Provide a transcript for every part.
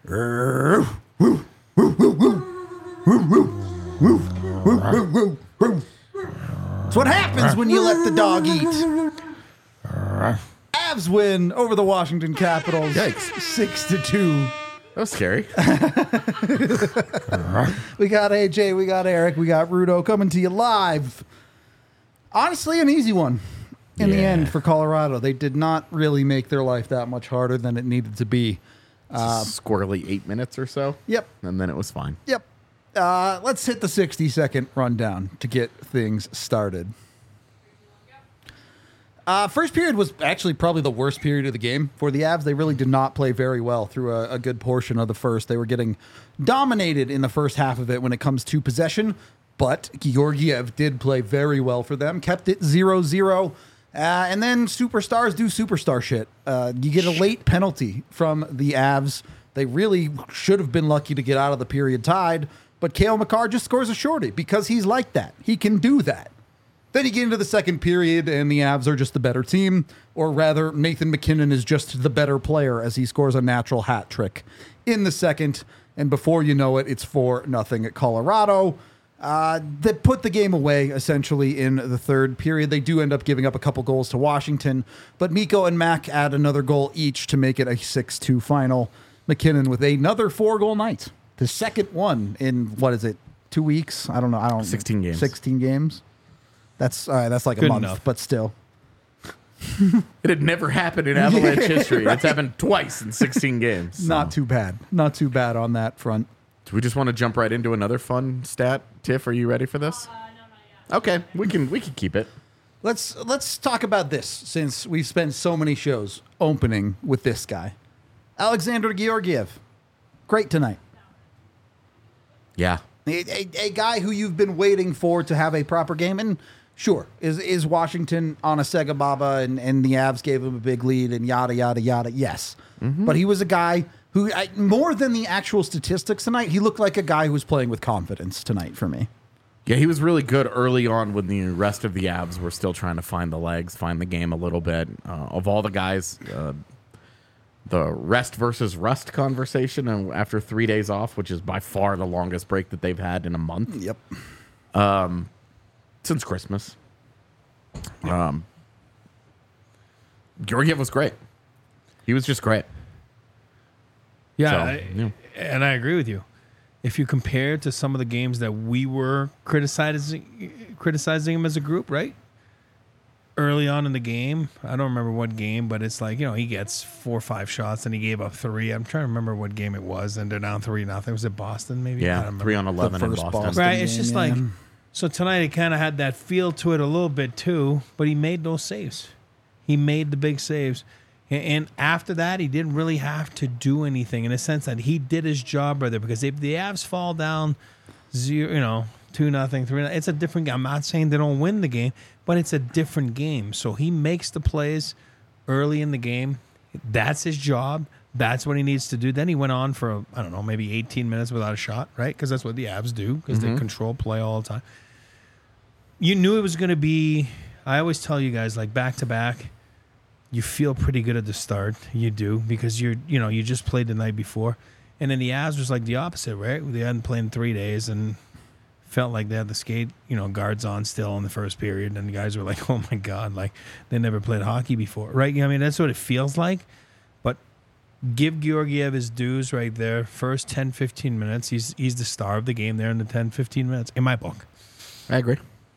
It's what happens when you let the dog eat. Avs win over the Washington Capitals. Yikes. 6-2. That was scary. We got AJ, we got Eric, we got Rudo coming to you live. Honestly, an easy one in the end for Colorado. They did not really make their life that much harder than it needed to be. Squirrely 8 minutes or so. Yep. And then it was fine. Yep. Let's hit the 60-second rundown to get things started. First period was actually probably the worst period of the game for the Avs. They really did not play very well through a good portion of the first. They were getting dominated in the first half of it when it comes to possession, but Georgiev did play very well for them, kept it 0-0, and then superstars do superstar shit. You get a late penalty from the Avs. They really should have been lucky to get out of the period tied, but Cale Makar just scores a shorty because he's like that. He can do that. Then you get into the second period, and the Avs are just the better team, or rather, Nathan MacKinnon is just the better player as he scores a natural hat trick in the second, and before you know it, it's 4-0 at Colorado. They put the game away, essentially, in the third period. They do end up giving up a couple goals to Washington, but Mikko and Mac add another goal each to make it a 6-2 final. MacKinnon with another 4-goal night. The second one in, 2 weeks? I don't know. 16 games. 16 games. That's like Good a month, enough. but still. It had never happened in Avalanche history. It's happened twice in 16 games. So. Not too bad. Not too bad on that front. Do we just want to jump right into another fun stat? Tiff, are you ready for this? No, not yet. Okay, we can keep it. Let's talk about this since we've spent so many shows opening with this guy. Alexander Georgiev. Great tonight. Yeah. A guy who you've been waiting for to have a proper game. And sure, is Washington on a Sega Baba and the Avs gave him a big lead and yada, yada, yada. Yes. Mm-hmm. But he was a guy who, more than the actual statistics tonight, he looked like a guy who was playing with confidence tonight for me. Yeah, he was really good early on when the rest of the Avs were still trying to find the legs, find the game a little bit. Of all the guys, the rest versus rust conversation after 3 days off, which is by far the longest break that they've had in a month. Yep. Since Christmas. Georgiev was great. He was just great. Yeah, So, and I agree with you. If you compare it to some of the games that we were criticizing him as a group, right? Early on in the game, I don't remember what game, but it's like, he gets 4 or 5 shots and he gave up 3. I'm trying to remember what game it was, and they're down 3-0. Was it Boston, maybe? I don't Yeah, remember. 3-on-11 in first Boston. Boston. Right, it's game, just yeah. like, so tonight it kind of had that feel to it a little bit too, but he made those saves. He made the big saves. And after that, he didn't really have to do anything in a sense that he did his job right there. Because if the Avs fall down 2-0, 3-0, it's a different game. I'm not saying they don't win the game, but it's a different game. So he makes the plays early in the game. That's his job. That's what he needs to do. Then he went on for, maybe 18 minutes without a shot, right? Because that's what the Avs do, because they control play all the time. You knew it was going to be, I always tell you guys, like back-to-back, you feel pretty good at the start. You do, because you just played the night before. And then the Avs was like the opposite, right? They hadn't played in 3 days and felt like they had the skate, guards on still in the first period. And the guys were like, oh my God, like they never played hockey before, right? I mean, that's what it feels like. But give Georgiev his dues right there. First 10, 15 minutes, he's the star of the game there in the 10, 15 minutes, in my book. I agree.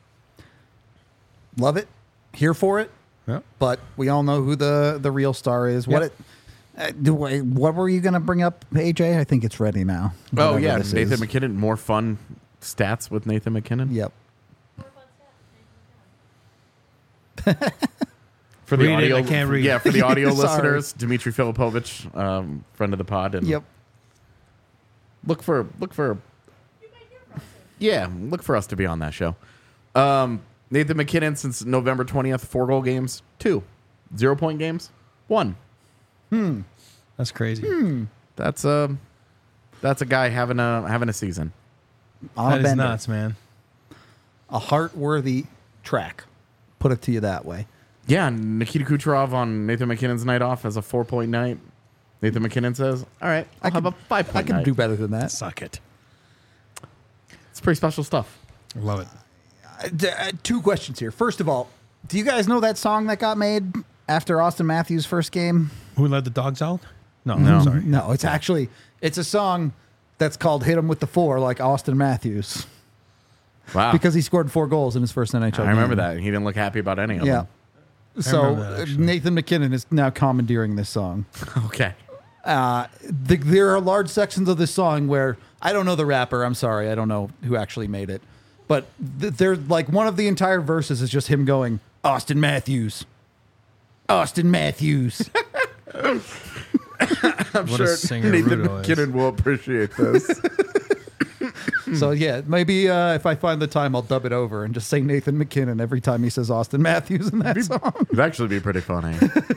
Love it. Here for it. Yeah. But we all know who the real star is. Yep. What were you going to bring up, AJ? I think it's ready now. Oh, Whatever yeah. this Nathan is. MacKinnon. More fun stats with Nathan MacKinnon. Yep. For the Read it, audio, I can't read. Yeah, for the audio Sorry. listeners, Dmitry Filipovich, friend of the pod, and Yep. look for us to be on that show. Nathan MacKinnon since November 20th, 4-goal games, 2 0-point games, 1. That's crazy. That's a guy having a season. On That a is bender. nuts, man. A heart-worthy track. Put it to you that way. Yeah, Nikita Kucherov on Nathan MacKinnon's night off as a 4-point night. Nathan McKinnon says, all right, I'll have a 5 I can do better than that. Suck it. It's pretty special stuff. I love it. 2 questions here. First of all, do you guys know that song that got made after Austin Matthews' first game? Who let the dogs out? No, No. sorry. No, it's a song that's called "Hit 'Em with the 4" like Austin Matthews, Wow. because he scored 4 goals in his first NHL game. I remember that. He didn't look happy about any of Yeah. them. So remember that, actually. Nathan McKinnon is now commandeering this song. Okay. There are large sections of this song where I don't know the rapper. I'm sorry, I don't know who actually made it, but they're like one of the entire verses is just him going Austin Matthews, Austin Matthews. I'm What a singer Nathan Rudo is. McKinnon will appreciate this. So yeah, maybe if I find the time, I'll dub it over and just say Nathan McKinnon every time he says Austin Matthews in that song. It'd actually be pretty funny.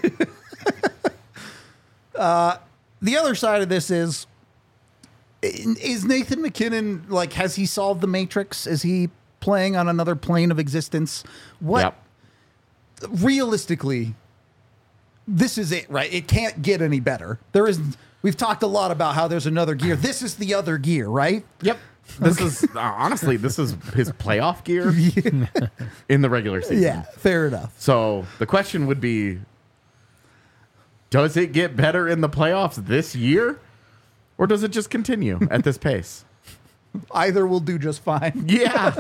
The other side of this is Nathan McKinnon, like, has he solved the Matrix? Is he playing on another plane of existence? What Yep. realistically, this is it, right? It can't get any better. We've talked a lot about how there's another gear. This is the other gear, right? Yep. This is honestly, this is his playoff gear in the regular season. Yeah, fair enough. So the question would be, does it get better in the playoffs this year? Or does it just continue at this pace? Either will do just fine. Yeah.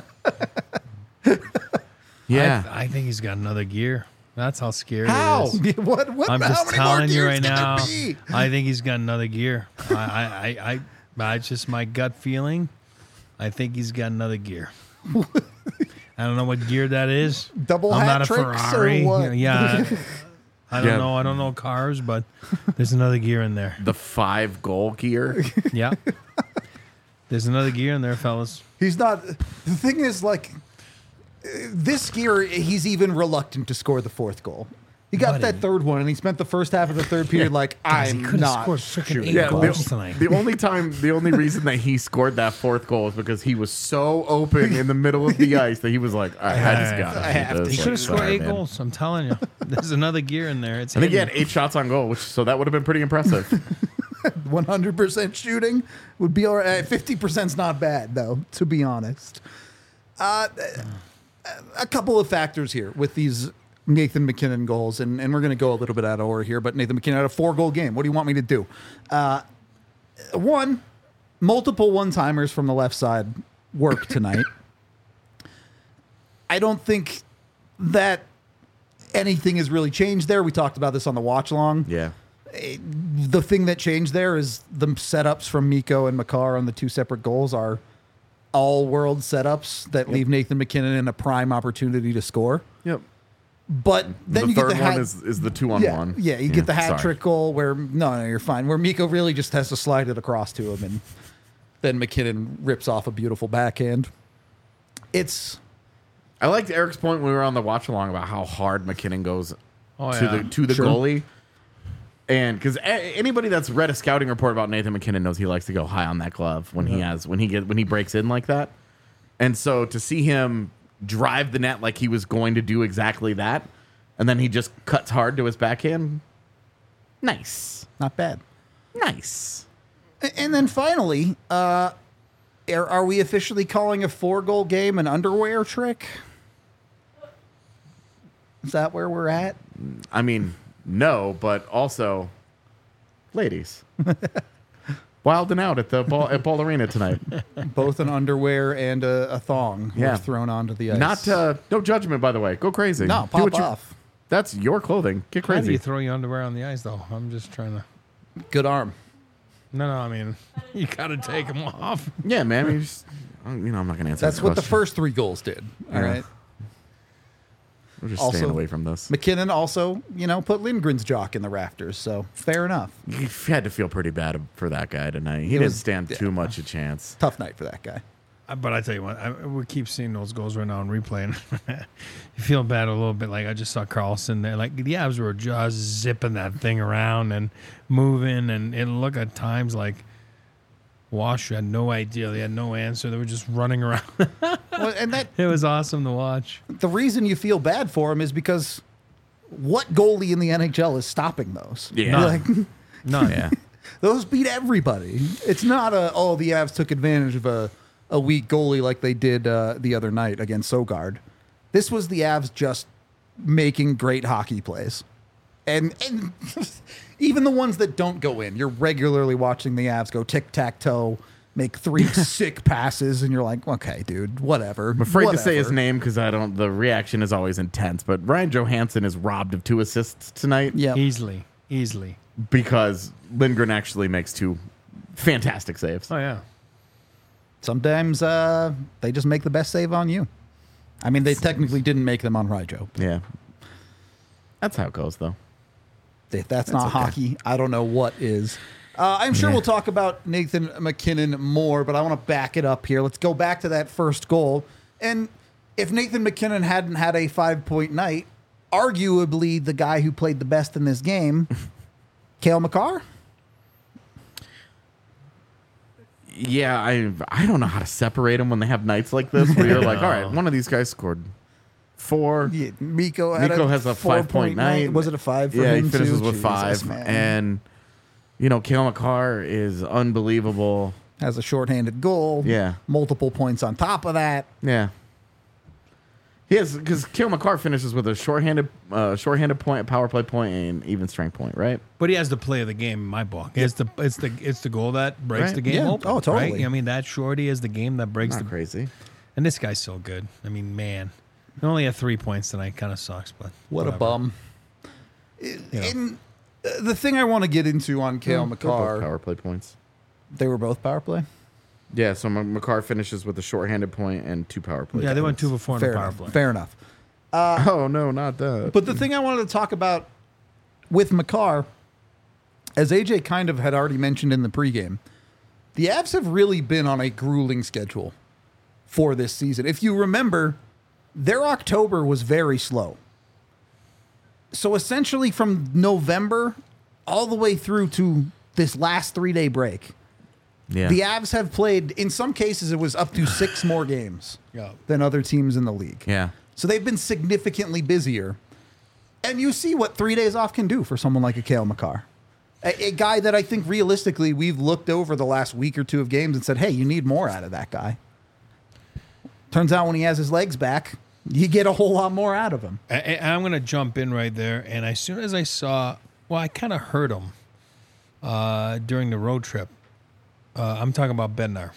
Yeah. I think he's got another gear. That's how scary How? it is. What? I'm how just many more telling you gears right can there now. be? I think he's got another gear. I it's just my gut feeling. I think he's got another gear. I don't know what gear that is. Double I'm hat not a tricks or Ferrari. what? Yeah. I don't Yeah. know. I don't know cars, but there's another gear in there. The 5-goal gear. Yeah. There's another gear in there, fellas. He's not. The thing is, like, this gear, he's even reluctant to score the 4th goal. He got that 3rd one, and he spent the first half of the 3rd period like, he I'm could have not scored freaking shooting. 8 Yeah, goals tonight. the only reason that he scored that 4th goal is because he was so open in the middle of the ice that he was like, all right, I just got I have to. He could have scored 8 man. goals. I'm telling you. There's another gear in there. It's I think he had hidden. 8 shots on goal, so that would have been pretty impressive. 100% shooting would be all right. 50% is not bad, though, to be honest. A couple of factors here with these Nathan McKinnon goals, and we're going to go a little bit out of order here, but Nathan McKinnon had a 4-goal game. What do you want me to do? One, multiple one-timers from the left side work tonight. I don't think that anything has really changed there. We talked about this on the watch-along. Yeah. The thing that changed there is the setups from Mikko and Makar on the 2 separate goals are all-world setups that leave Nathan McKinnon in a prime opportunity to score. Yep. But then The you get third the hat. one is the 2-on-1. Yeah, you get the hat sorry. trick goal where no, you're fine. Where Mikko really just has to slide it across to him, and then McKinnon rips off a beautiful backhand. I liked Eric's point when we were on the watch along about how hard McKinnon goes Oh, to yeah. the Sure. goalie. And because anybody that's read a scouting report about Nathan McKinnon knows he likes to go high on that glove when he breaks in like that. And so to see him drive the net like he was going to do exactly that, and then he just cuts hard to his backhand, nice, not bad. nice. And then finally, are we officially calling a 4-goal game an underwear trick? Is that where we're at? I mean, no, but also, ladies, wilding out at Ball Arena tonight. Both an underwear and a thong were Yeah. thrown onto the ice. Not no judgment, by the way. Go crazy. No, Do what pop you- off. That's your clothing. Get How do crazy. you throw your underwear on the ice, though? I'm just trying to. Good arm. No, I mean, you got to take them off. Yeah, man. I'm not going to answer. That's this what the question. first 3 goals did. All Yeah. right. We're just Also- staying away from this. McKinnon also, put Lindgren's jock in the rafters, so fair enough. You had to feel pretty bad for that guy tonight. He It didn't was- stand too much a chance. Tough night for that guy. But I tell you what, we keep seeing those goals right now in replay, and you feel bad a little bit. Like I just saw Carlson there, like the Avs were just zipping that thing around and moving, and it looked at times like Wash had no idea, they had no answer, they were just running around. Well, and that It was awesome to watch. the reason you feel bad for him is because what goalie in the NHL is stopping those? Yeah. Like, None. Yeah. Those beat everybody. It's not the Avs took advantage of a weak goalie like they did the other night against Sogard. This was the Avs just making great hockey plays. And even the ones that don't go in, you're regularly watching the Avs go tic-tac-toe, make 3 sick passes, and you're like, okay, dude, whatever. I'm afraid to say his name because the reaction is always intense, but Ryan Johansson is robbed of 2 assists tonight. Yeah. Easily. Because Lindgren actually makes 2 fantastic saves. Oh, yeah. Sometimes they just make the best save on you. I mean, they technically didn't make them on Ryjo. Yeah. That's how it goes, though. If that's not okay. hockey, I don't know what is. I'm sure we'll talk about Nathan McKinnon more, but I want to back it up here. Let's go back to that first goal. And if Nathan McKinnon hadn't had a 5-point night, arguably the guy who played the best in this game, Cale Makar? Yeah, I don't know how to separate them when they have nights like this where you're like, all right, one of these guys scored 4. Yeah, Mikko has a 5-point night. Was it a 5 for Yeah, him he finishes too? with Jesus, 5. man. And, Cale Makar is unbelievable. Has a shorthanded goal. Yeah. Multiple points on top of that. Yeah. He has, because Cale Makar finishes with a shorthanded point, a power play point, and even strength point, right? But he has the play of the game in my book. It's the goal that breaks Right. the game Yeah. open. Oh, totally. Right? I mean, that shorty is the game that breaks Not the. crazy. And this guy's so good. I mean, man, he only had 3 points tonight. Kind of sucks, but What whatever. a bum. And the thing I want to get into on Cale They're both Makar, power play points. they were both power play. Yeah, so Makar finishes with a shorthanded point and 2 power play. Yeah, they went points. 2 for 4 in Fair the power enough. play. Fair enough. Oh no, not that. But the thing I wanted to talk about with Makar, as AJ kind of had already mentioned in the pregame, the Avs have really been on a grueling schedule for this season. If you remember, their October was very slow. So essentially from November all the way through to this last 3-day break, Yeah. the Avs have played, in some cases, it was up to 6 more games Yeah. than other teams in the league. Yeah. So they've been significantly busier. And you see what 3 days off can do for someone like a Cale Makar. A guy that I think realistically we've looked over the last week or 2 of games and said, hey, you need more out of that guy. Turns out when he has his legs back, you get a whole lot more out of him. I'm going to jump in right there. And as soon as I saw, I kind of heard him during the road trip. I'm talking about Bednar.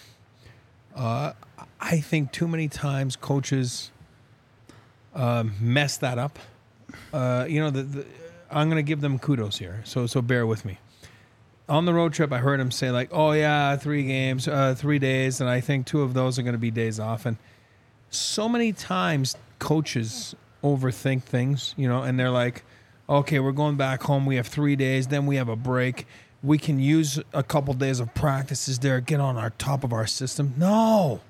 I think too many times coaches mess that up. I'm going to give them kudos here. So bear with me. On the road trip, I heard him say like, oh yeah, 3 games, 3 days. And I think 2 of those are going to be days off. And so many times coaches overthink things, and they're like, okay, we're going back home. We have 3 days. Then we have a break. We can use a couple days of practices there, get on our top of our system. No.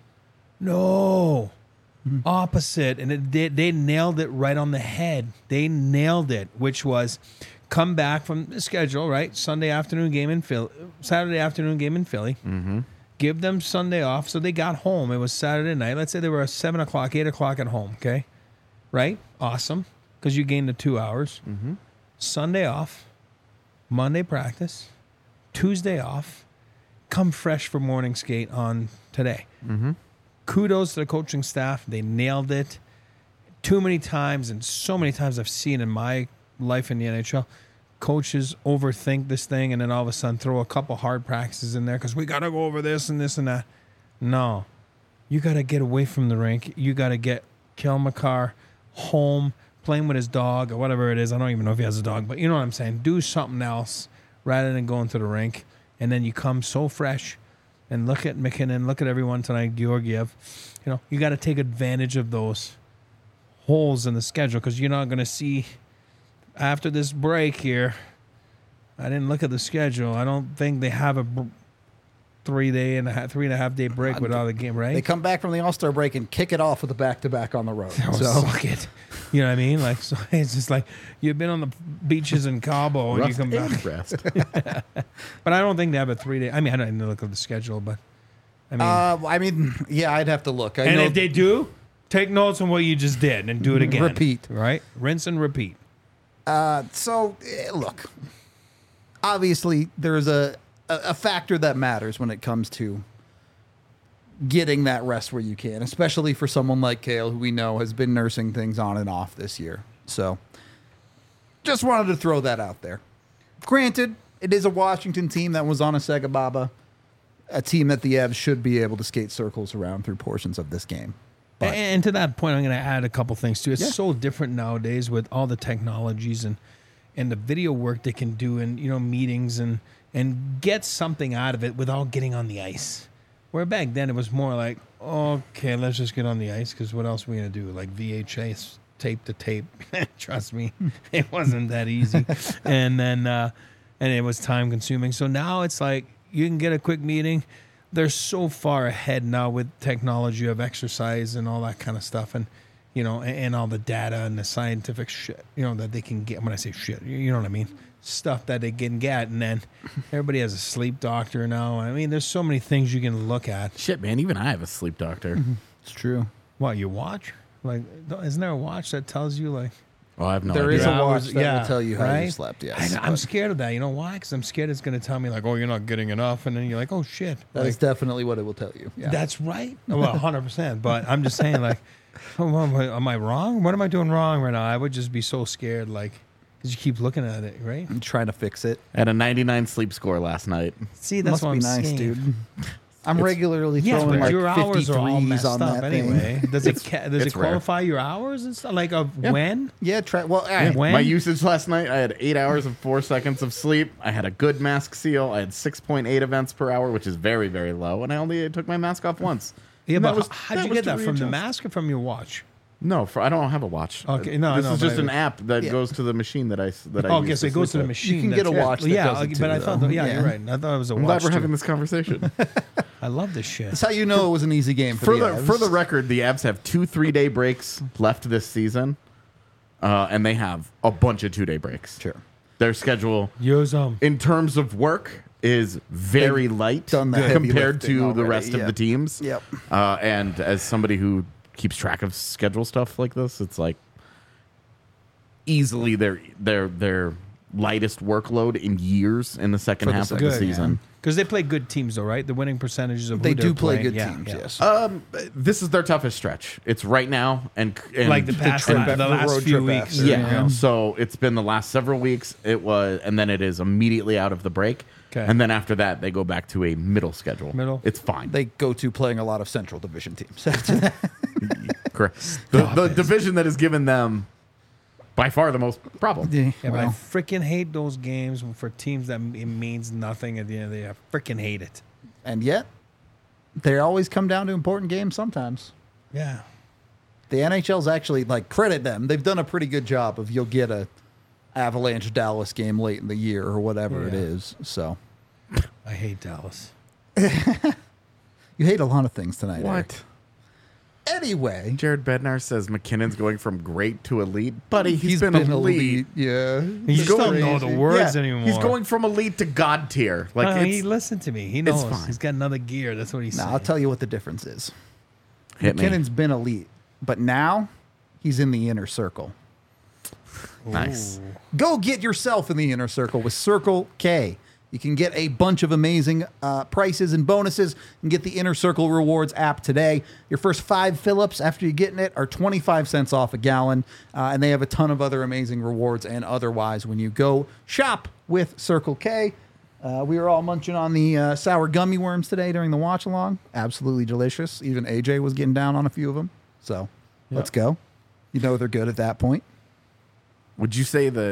Opposite. And they nailed it right on the head. They nailed it, which was come back from the schedule, right? Saturday afternoon game in Philly. Mm-hmm. Give them Sunday off. So they got home. It was Saturday night. Let's say they were 7 o'clock, 8 o'clock at home, okay? Right? Awesome. Because you gained the 2 hours. Mm-hmm. Sunday off. Monday practice. Tuesday off. Come fresh for morning skate on today. Mm-hmm. Kudos to the coaching staff. They nailed it. Too many times, and so many times I've seen in my life in the NHL, coaches overthink this thing and then all of a sudden throw a couple hard practices in there because we got to go over this and this and that. No. You got to get away from the rink. You got to get Cale Makar home, playing with his dog or whatever it is. I don't even know if he has a dog, but you know what I'm saying. Do something else rather than going to the rink. And then you come so fresh. And look at McKinnon, look at everyone tonight, Georgiev. You got to take advantage of those holes in the schedule because you're not going to see after this break here. I didn't look at the schedule. I don't think they have a 3.5 day break without a game, right? They come back from the All-Star break and kick it off with a back-to-back on the road. So fuck it. You know what I mean? Like, so it's just like you've been on the beaches in Cabo and you come back. Rest. But I don't think they have a 3 day. I mean, I didn't look at the schedule, but I mean, Yeah, I'd have to look. and if they do, take notes on what you just did and do it again. Repeat. Right? Rinse and repeat. Look, obviously there's a factor that matters when it comes to getting that rest where you can, especially for someone like Kale, who we know has been nursing things on and off this year. So just wanted to throw that out there. Granted, it is a Washington team that was on a Sega Baba, a team that the Avs should be able to skate circles around through portions of this game. But And to that point, I'm going to add a couple things too. It's Yeah. so different nowadays with all the technologies and the video work they can do in meetings and get something out of it without getting on the ice. Where back then it was more like, okay, let's just get on the ice because what else are we going to do? Like VHS tape to tape. Trust me, it wasn't that easy. And then and it was time consuming. So now it's like you can get a quick meeting. They're so far ahead now with technology of exercise and all that kind of stuff, and and all the data and the scientific shit, that they can get. When I say shit, you know what I mean, stuff that they can get, and then everybody has a sleep doctor now. I mean, there's so many things you can look at. Shit, man, even I have a sleep doctor. it's true. What, you watch? Like, isn't there a watch that tells you like? Oh, I have no There idea. is a hours, watch that yeah, will tell you how you right? slept. Yes, I'm but scared of that. You know why? Because I'm scared it's going to tell me like, oh, you're not getting enough, and then you're like, oh shit. that Like, is definitely what it will tell you. Yeah. That's right. Well, 100%. But I'm just saying, like, am I wrong? What am I doing wrong right now? I would just be so scared, like, because you keep looking at it, right? I'm trying to fix it. I had a 99 sleep score last night. See, that's Must what be I'm nice, saying. dude. I'm regularly Yes, throwing but like your hours 50 are all threes messed on up that anyway. thing. Does it it's rare. qualify your hours and stuff? Like of Yeah. when? Yeah, well, When? My usage last night, I had 8 hours and 4 seconds of sleep. I had a good mask seal. I had 6.8 events per hour, which is very, very low. And I only took my mask off once. Yeah, And but that was- how'd you was get to that? From the readjust. mask or from your watch? No, I don't have a watch. Okay, no, this I know, is but just I- an app that Yeah. goes to the machine that I Oh, use okay, so it goes to sleep the with. machine. You can get a that's- watch that yeah, does it but too, I thought, though. yeah, Yeah. you're right. I thought it was a I'm watch. glad we're too. having this conversation. I love this shit. that's how you know it was an easy game for, for the the Avs. for the record, the Avs have 2 3-day breaks left this season, and they have a bunch of 2-day breaks. Sure. Their schedule, Use in terms of work, is very light done the heavy compared lifting to the already, rest of yeah. the teams. Yep. And as somebody who keeps track of schedule stuff like this, it's like easily their lightest workload in years in the second For the half of second the half, yeah. season. Because they play good teams, though, right? The winning percentages of They who do they're play playing. good Yeah, teams, yeah. yes. This is their toughest stretch. It's right now, and Like the past, trip the after the last road few trip weeks. after. yeah. So it's been the last several weeks. It was, and then it is immediately out of the break. Okay. And then after that, they go back to a middle schedule. Middle? It's fine. They go to playing a lot of Central Division teams after that. Correct. The division that has given them by far the most problem. Yeah, but I well, freaking hate those games for teams that it means nothing at the end of the day. I freaking hate it. and yet, they always come down to important games sometimes. Yeah. The NHL's actually, like, credit them. They've done a pretty good job of you'll get a Avalanche Dallas game late in the year or whatever it Yeah. is. So I hate Dallas. you hate a lot of things tonight. Eric. What? Anyway, Jared Bednar says McKinnon's going from great to elite. Buddy, he's been, been elite. Yeah. You It's just don't crazy. know the words Yeah, anymore. He's going from elite to God tier. Like No, it's, he listened to me. He knows. fine. He's got another gear. That's what he's Now, saying. I'll tell you what the difference is. hit me. McKinnon's been elite, but now he's in the inner circle. Nice. Go get yourself in the inner circle with Circle K. You can get a bunch of amazing prices and bonuses and get the Inner Circle Rewards app today. Your first 5 fill-ups after you get in it are 25 cents off a gallon, and they have a ton of other amazing rewards and otherwise when you go shop with Circle K. We were all munching on the sour gummy worms today during the watch-along. Absolutely delicious. Even AJ was getting down on a few of them. So let's go. You know they're good at that point. Would you say that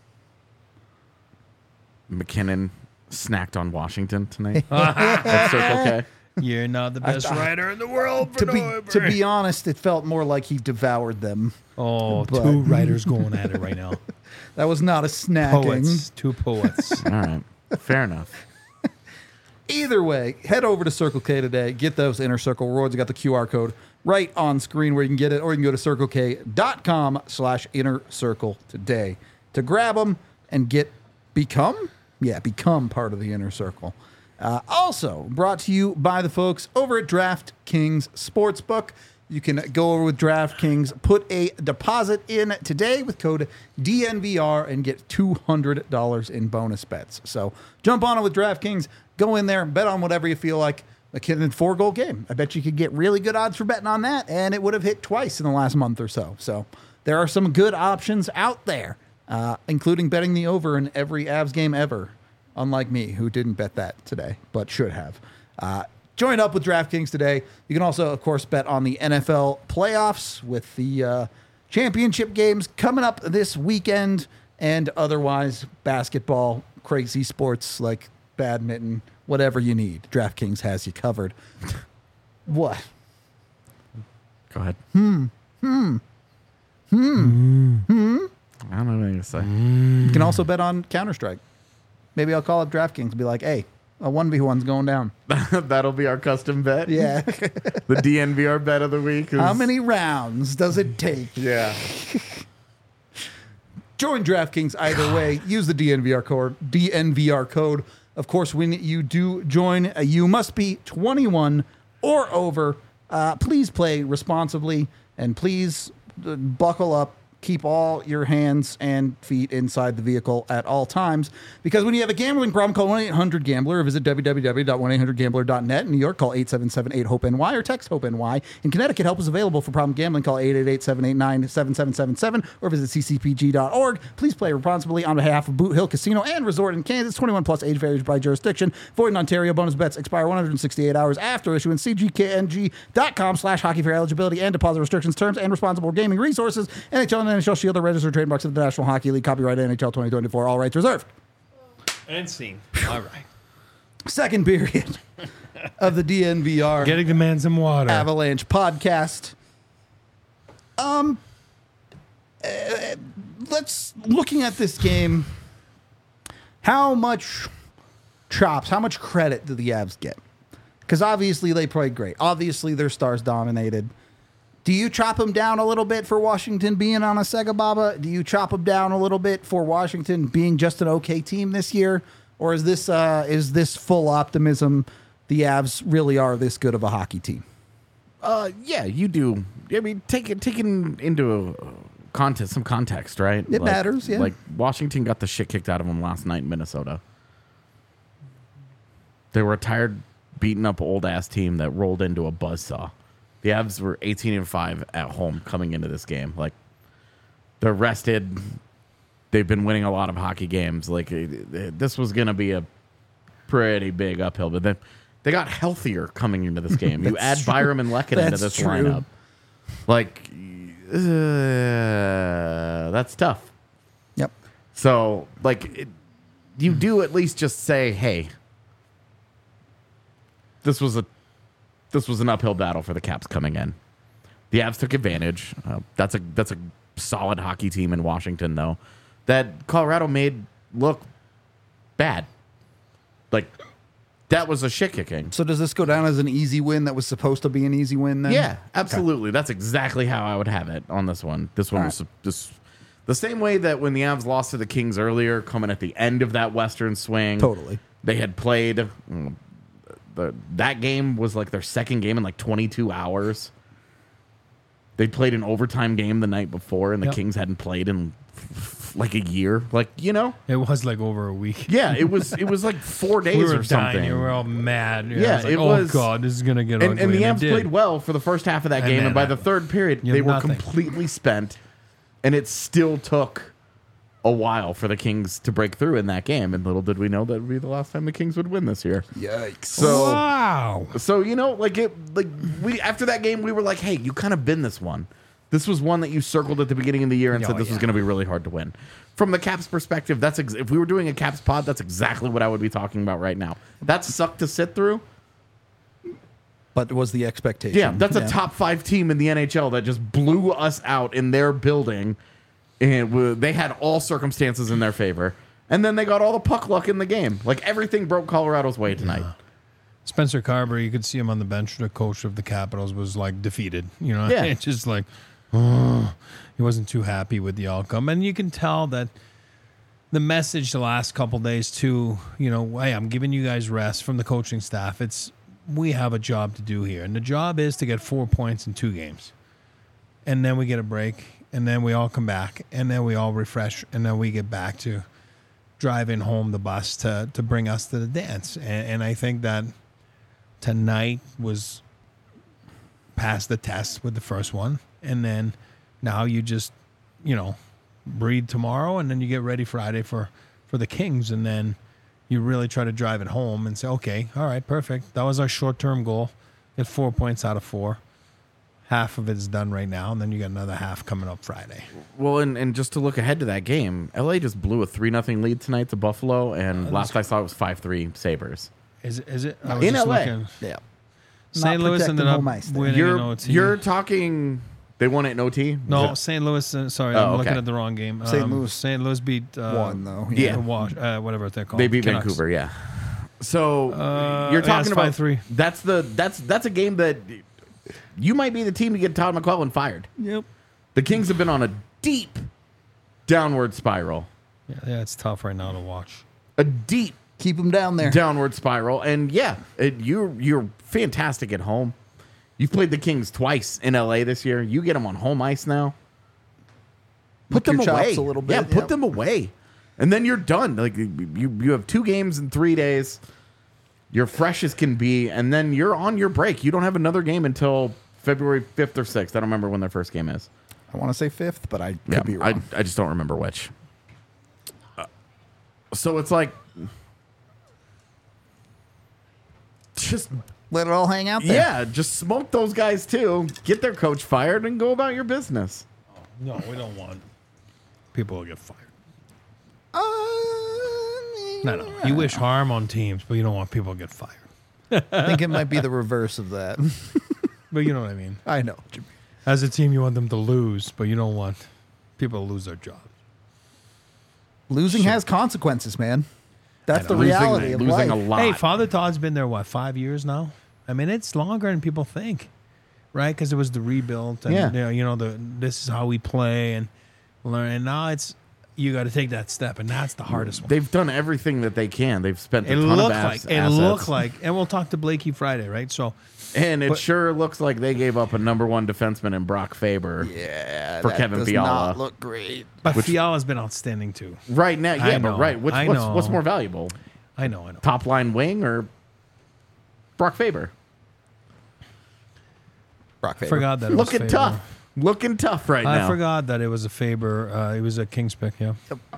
McKinnon snacked on Washington tonight at Circle K? You're not the best writer in the world for To be honest, it felt more like he devoured them. Oh, but- 2 writers going at it right now. That was not a snacking. Poets. 2 poets. All right. Fair enough. Either way, head over to Circle K today. Get those Inner Circle rewards. You got the QR code right on screen where you can get it, or you can go to circlek.com/inner circle today to grab them and become part of the Inner Circle. Also brought to you by the folks over at DraftKings Sportsbook. You can go over with DraftKings, put a deposit in today with code DNVR and get $200 in bonus bets. So jump on it with DraftKings, go in there, bet on whatever you feel like. A 4-goal game. I bet you could get really good odds for betting on that, and it would have hit twice in the last month or so. So there are some good options out there, including betting the over in every Avs game ever, unlike me, who didn't bet that today, but should have. Join up with DraftKings today. You can also, of course, bet on the NFL playoffs with the championship games coming up this weekend, and otherwise basketball, crazy sports like badminton, whatever you need. DraftKings has you covered. What? Go ahead. I don't know anything to say. You can also bet on Counter-Strike. Maybe I'll call up DraftKings and be like, hey, a 1v1's going down. That'll be our custom bet. Yeah. The DNVR bet of the week. How many rounds does it take? Yeah. Join DraftKings either way. Use the DNVR code. Of course, when you do join, you must be 21 or over. Please play responsibly, and please buckle up. Keep all your hands and feet inside the vehicle at all times. Because when you have a gambling problem, call 1-800-GAMBLER or visit www.1800gambler.net. In New York, call 877-8-HOPE-NY or text HOPE-NY. In Connecticut, help is available for problem gambling. Call 888-789-7777 or visit ccpg.org. Please play responsibly on behalf of Boot Hill Casino and Resort in Kansas. 21 plus, age varies by jurisdiction. Void in Ontario. Bonus bets expire 168 hours after issuance. cgkng.com/hockey for eligibility and deposit restrictions, terms, and responsible gaming resources. NHL and NHL Shield are registered trademarks of the National Hockey League. Copyright NHL 2024. All rights reserved. And scene. All right. Second period of the DNVR Getting the man some water. Avalanche podcast. Let's looking at this game. How much chops? How much credit do the Avs get? Because obviously they played great. Obviously their stars dominated. Do you chop them down a little bit for Washington being on a Sega Baba? Do you chop them down a little bit for Washington being just an okay team this year? Or is this full optimism? The Avs really are this good of a hockey team. Yeah, you do. I mean, taking into some context, right? It matters, yeah. Like Washington got the shit kicked out of them last night in Minnesota. They were a tired, beaten up old ass team that rolled into a buzzsaw. The Avs were 18-5 at home coming into this game. Like, they're rested. They've been winning a lot of hockey games. Like, this was going to be a pretty big uphill. But they got healthier coming into this game. You add true. Byram and Lehkonen into this true. lineup. Like, that's tough. Yep. So, like, you do at least just say, hey, this was an uphill battle for the Caps coming in. The Avs took advantage. That's a solid hockey team in Washington, though, that Colorado made look bad. Like, that was a shit kicking. So does this go down as an easy win that was supposed to be an easy win then? Yeah, absolutely. Okay. That's exactly how I would have it on this one. This one was just the same way that when the Avs lost to the Kings earlier, coming at the end of that Western swing. Totally. They had played... that game was like their second game in like 22 hours. They played an overtime game the night before, and the Kings hadn't played in like a year. Like, you know, it was like over a week. Yeah, it was like 4 days we were or something. Dying. We were all mad. Yeah, it was. Oh God, this is gonna get ugly. And the Avs played well for the first half of that game, and by the third period, they were completely spent, and it still took a while for the Kings to break through in that game, and little did we know that would be the last time the Kings would win this year. Yikes! So, wow. So you know, we after that game, we were like, hey, you kind of been this one. This was one that you circled at the beginning of the year and said this was going to be really hard to win. From the Caps perspective, that's if we were doing a Caps pod, that's exactly what I would be talking about right now. That sucked to sit through. But was the expectation? Yeah, that's a top 5 team in the NHL that just blew us out in their building. And they had all circumstances in their favor. And then they got all the puck luck in the game. Like, everything broke Colorado's way tonight. Yeah. Spencer Carber, you could see him on the bench. The coach of the Capitals was, like, defeated. You know, yeah. It's just like, oh, he wasn't too happy with the outcome. And you can tell that the message the last couple days, too, you know, hey, I'm giving you guys rest from the coaching staff. It's we have a job to do here. And the job is to get 4 points in 2 games. And then we get a break. And then we all come back. And then we all refresh. And then we get back to driving home the bus to bring us to the dance. And I think that tonight was past the test with the first one. And then now you just, breathe tomorrow. And then you get ready Friday for the Kings. And then you really try to drive it home and say, okay, all right, perfect. That was our short-term goal. Get 4 points out of 4. Half of it is done right now, and then you got another half coming up Friday. Well, and just to look ahead to that game, LA just blew a 3-0 lead tonight to Buffalo, and last I saw it was 5-3 Sabres. Is it? I In was just LA. looking. Yeah. St. Not Louis protecting ended up home ice there. winning in OT. You're talking. They won it in OT. No, Was St. Louis. Sorry, Oh, I'm okay. looking at the wrong game. St. Louis St. Louis beat won, though. Yeah. whatever they're it- called. They beat Canucks. Vancouver. Yeah. So you're yeah, talking it's about 5-3. That's a game that you might be the team to get Todd McClellan fired. Yep. The Kings have been on a deep downward spiral. Yeah, it's tough right now to watch. A deep Keep them down there. downward spiral. And yeah, you're fantastic at home. You've played the Kings twice in LA this year. You get them on home ice now. Put Lick your them chops away a little bit, Yeah, put yep. them away. And then you're done. Like you have 2 games in 3 days. You're fresh as can be, and then you're on your break. You don't have another game until February 5th or 6th. I don't remember when their first game is. I want to say 5th, but I could be wrong. I just don't remember which. So it's like just Let it all hang out there. yeah, just smoke those guys too. Get their coach fired and go about your business. No, we don't want people to get fired. No. You wish harm on teams, but you don't want people to get fired. I think it might be the reverse of that. But you know what I mean. I know. what you mean. As a team, you want them to lose, but you don't want people to lose their jobs. Losing has consequences, man. That's I the know. reality of Losing life. a lot. Hey, Father Todd's been there, 5 years now? I mean, it's longer than people think, right? Because it was the rebuild, and Yeah. this is how we play and learn. And now you got to take that step, and that's the hardest one. They've done everything that they can. They've spent a It ton looked of like assets. and we'll talk to Blakey Friday, right? So, And it But- sure looks like they gave up a number 1 defenseman in Brock Faber. Yeah, For that Kevin does Fiala. not look great. but Fiala's been outstanding too. Right now, I yeah, know, but right. I What's know. more valuable? I know. Top line wing or Brock Faber? Brock Faber. Forgot that it was Looking Faber. tough. Looking tough right I now. forgot that it was a Faber. It was a Kings pick. Yeah.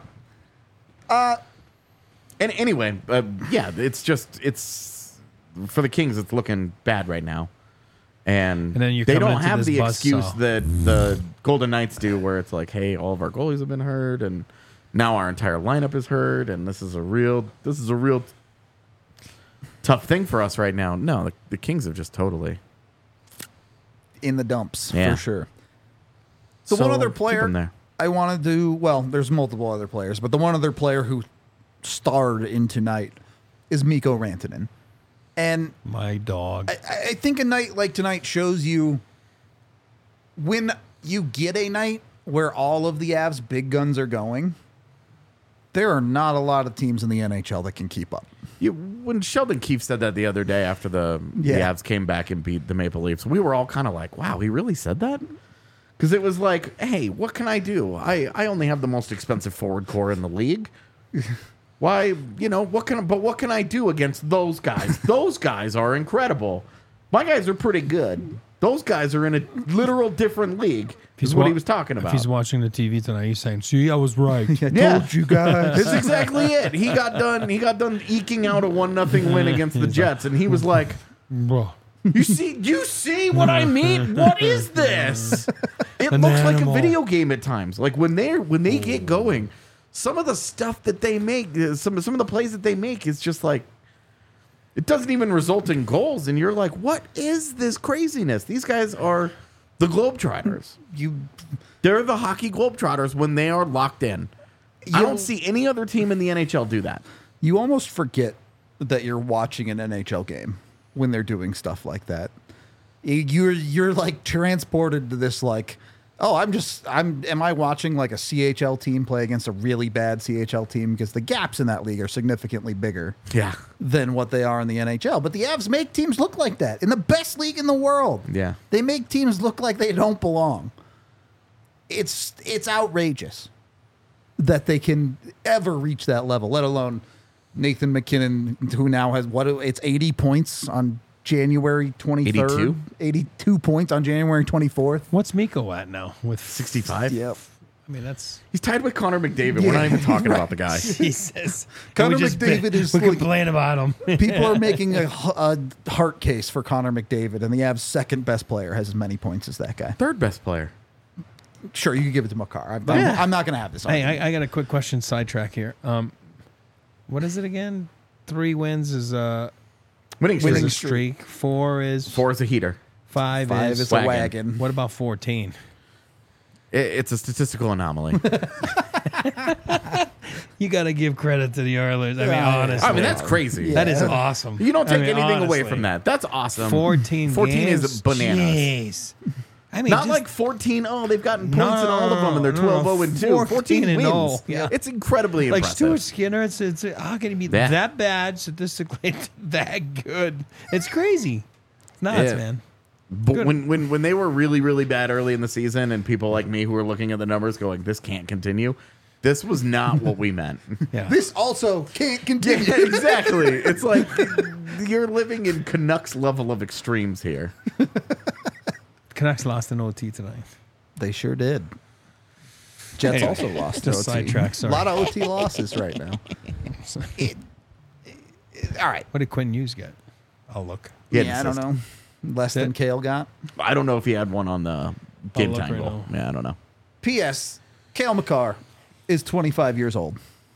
And anyway, yeah, it's for the Kings. It's looking bad right now, and And then you're they coming don't into have this the buzzsaw. excuse that the Golden Knights do, where it's like, hey, all of our goalies have been hurt, and now our entire lineup is hurt, and this is a real tough thing for us right now. No, the Kings have just totally. in the dumps Yeah. for sure. The one other keep player them there. I want to do, well, there's multiple other players, but the one other player who starred in tonight is Mikko Rantanen. And My dog. I think a night like tonight shows you when you get a night where all of the Avs big guns are going, there are not a lot of teams in the NHL that can keep up. When Sheldon Keefe said that the other day after the Yeah. Avs came back and beat the Maple Leafs, we were all kind of like, wow, he really said that? Because it was like, hey, what can I do? I only have the most expensive forward core in the league. Why, what can I do against those guys? Those guys are incredible. My guys are pretty good. Those guys are in a literal different league. Is what he was talking If about. he's watching the TV tonight, he's saying, "See, I was right." Yeah. Told you guys. That's exactly it. He got done eking out a 1-0 win against the Jets, and he was like, Bro. You see what I mean? What is this? It An looks like a animal. video game at times. Like when they get going, some of the stuff that they make, some of the plays that they make is just like it doesn't even result in goals, and you're like, what is this craziness? These guys are the Globetrotters. They're the hockey Globetrotters when they are locked in. I don't see any other team in the NHL do that. You almost forget that you're watching an NHL game when they're doing stuff like that. You're like transported to this like Oh, am I watching like a CHL team play against a really bad CHL team? Because the gaps in that league are significantly bigger Yeah. than what they are in the NHL. But the Avs make teams look like that in the best league in the world. Yeah. They make teams look like they don't belong. It's outrageous that they can ever reach that level, let alone Nathan McKinnon, who now has it's 80 points on January 23rd. 82? 82 points on January 24th. What's Miko at now? With 65? Yep. I mean, that's He's tied with Connor McDavid. We're not even talking about the guy. Jesus. Connor We just McDavid is we like- complain about him. People are making a heart case for Connor McDavid, and the Avs' second best player has as many points as that guy. Third best player. Sure, you can give it to Makar. Yeah. I'm not going to have this. Hey, argument. I got a quick question sidetrack here. What is it again? 3 wins is a Winning streak. streak. 4 is 4 is a heater. 5 5 is is a wagon. wagon. What about 14? It's a statistical anomaly. You got to give credit to the Oilers. I mean, Yeah. honestly, I mean, that's crazy. that is Yeah. awesome. You don't take I mean, anything away honestly. from that. That's awesome. 14 is games? bananas. Jeez. I mean, Not just- like 14. Oh, they've gotten points No, in all of them, and they're 12-0 and 2. 14 and wins. 0. Yeah. It's incredibly like impressive. Stuart Skinner. It's how can he be Yeah. that bad statistically, that good? It's crazy. It's nuts, Yeah. man. But Good. when they were really, really bad early in the season, and people like me who were looking at the numbers going, this can't continue, this was not what we meant. Yeah. This also can't continue. Yeah, exactly. It's like you're living in Canucks level of extremes here. Canucks lost an OT tonight. They sure did. Jets Anyway, also lost. just OT. sidetrack, sorry. A lot of OT losses right now. All right. What did Quinn Hughes get? I'll look. He had Yeah, I an don't assist. know. Less than That- Kale got. I don't know if he had one on the game look time right goal. now. Yeah, I don't know. P.S. Kale McCarr is 25 years old.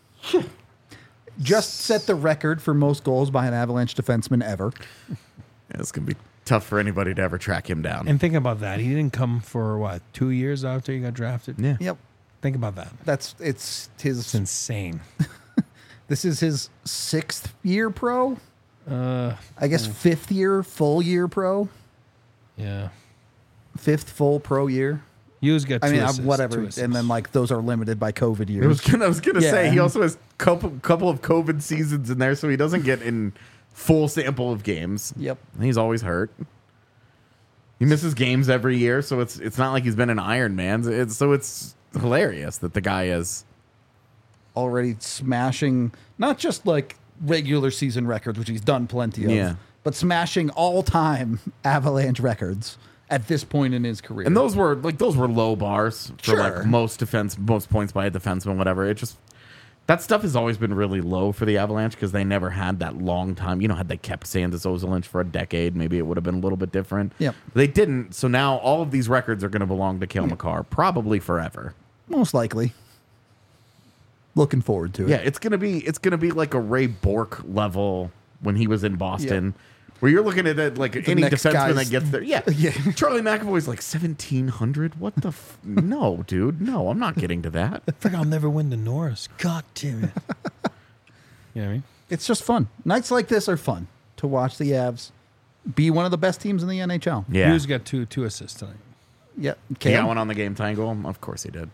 Just set the record for most goals by an Avalanche defenseman ever. Yeah, it's gonna be tough for anybody to ever track him down. And think about that. He didn't come for what, 2 years after he got drafted? yeah. Yep. Think about that. It's It's his. insane. This is his 6th year pro. Uh, I guess 5th year, full year pro. yeah. 5th full pro year. Hughes got 2 I mean, assists, whatever. 2 And assists. then like those are limited by COVID I was years. gonna Yeah. say he also has couple of COVID seasons in there, so he doesn't get in full sample of games. Yep. He's always hurt. He misses games every year, so it's not like he's been an Iron Man. It's hilarious that the guy is. Already smashing not just like regular season records, which he's done plenty of, Yeah. but smashing all-time Avalanche records at this point in his career. And those were low bars for Sure. like most points by a defenseman, whatever. It just that stuff has always been really low for the Avalanche because they never had that long time. You know, had they kept Sandis Ozolinsh for a decade, maybe it would have been a little bit different. Yep. They didn't, so now all of these records are going to belong to Cale Makar, probably forever. most likely. Looking forward to it. Yeah, it's gonna be like a Ray Bork level when he was in Boston. Where you're looking at it like any next defenseman guy's- that gets there. Yeah. Yeah. Charlie McAvoy's like 1,700. What the? No, dude. No, I'm not getting to that. I think I'll never win the Norris. God damn it. You know what I mean? It's just fun. Nights like this are fun to watch the Avs be one of the best teams in the NHL. Yeah. Hughes got two assists tonight. Yep. He Cam? got one on the game tangle. Of course he did.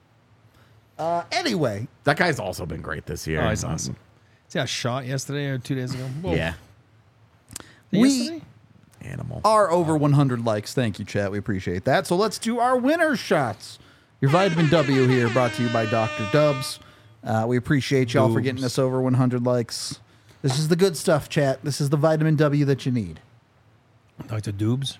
Anyway, That guy's also been great this year. Oh, he's awesome. See a shot yesterday or 2 days ago? Whoa. Yeah. Yesterday? Animal. are over 100 likes. Thank you, chat. We appreciate that. So let's do our winner shots. Your vitamin W here, brought to you by Dr. Dubs. We appreciate y'all for getting us over 100 likes. This is the good stuff, chat. This is the vitamin W that you need. Dr. Dubes.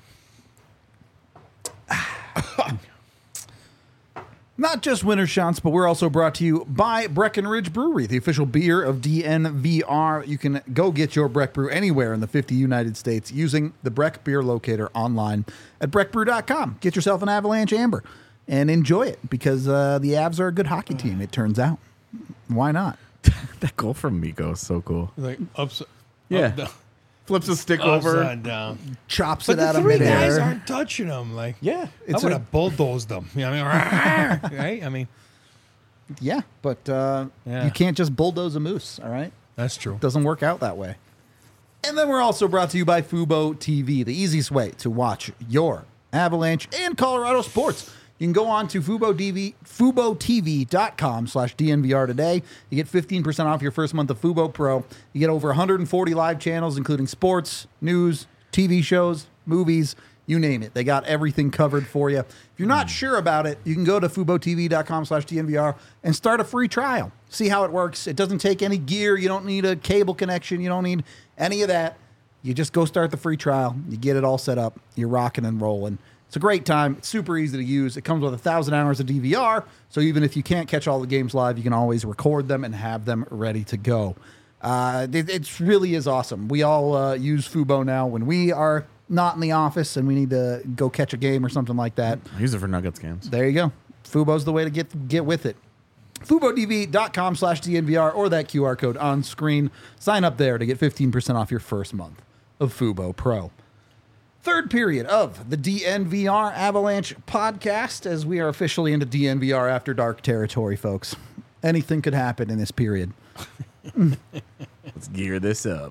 Not just winter shots, but we're also brought to you by Breckenridge Brewery, the official beer of DNVR. You can go get your Breck Brew anywhere in the 50 United States using the Breck Beer Locator online at breckbrew.com. Get yourself an Avalanche Amber and enjoy it because the Avs are a good hockey team, it turns out. Why not? That goal from Miko is so cool. Like upside. Yeah. Up, down, Flips a stick over. upside down. Chops But it the out of 3 guys midair. aren't touching them. Like, Yeah. It's I would a- have bulldozed them. You know what I mean? Right? I mean, Yeah, but Yeah. you can't just bulldoze a moose, all right? that's true. Doesn't work out that way. And then we're also brought to you by Fubo TV, the easiest way to watch your Avalanche and Colorado sports. You can go on to FuboTV.com/DNVR today. You get 15% off your first month of Fubo Pro. You get over 140 live channels, including sports, news, TV shows, movies, you name it. They got everything covered for you. If you're not sure about it, you can go to FuboTV.com/DNVR and start a free trial. See how it works. It doesn't take any gear. You don't need a cable connection. You don't need any of that. You just go start the free trial. You get it all set up. You're rocking and rolling. It's a great time. It's super easy to use. It comes with 1,000 hours of DVR, so even if you can't catch all the games live, you can always record them and have them ready to go. It really is awesome. We all use Fubo now when we are not in the office and we need to go catch a game or something like that. I use it for Nuggets games. There you go. Fubo's the way to get with it. FuboTV.com/DNVR or that QR code on screen. Sign up there to get 15% off your first month of Fubo Pro. Third period of the DNVR Avalanche podcast, as we are officially into DNVR After Dark territory, folks. Anything could happen in this period. Let's gear this up.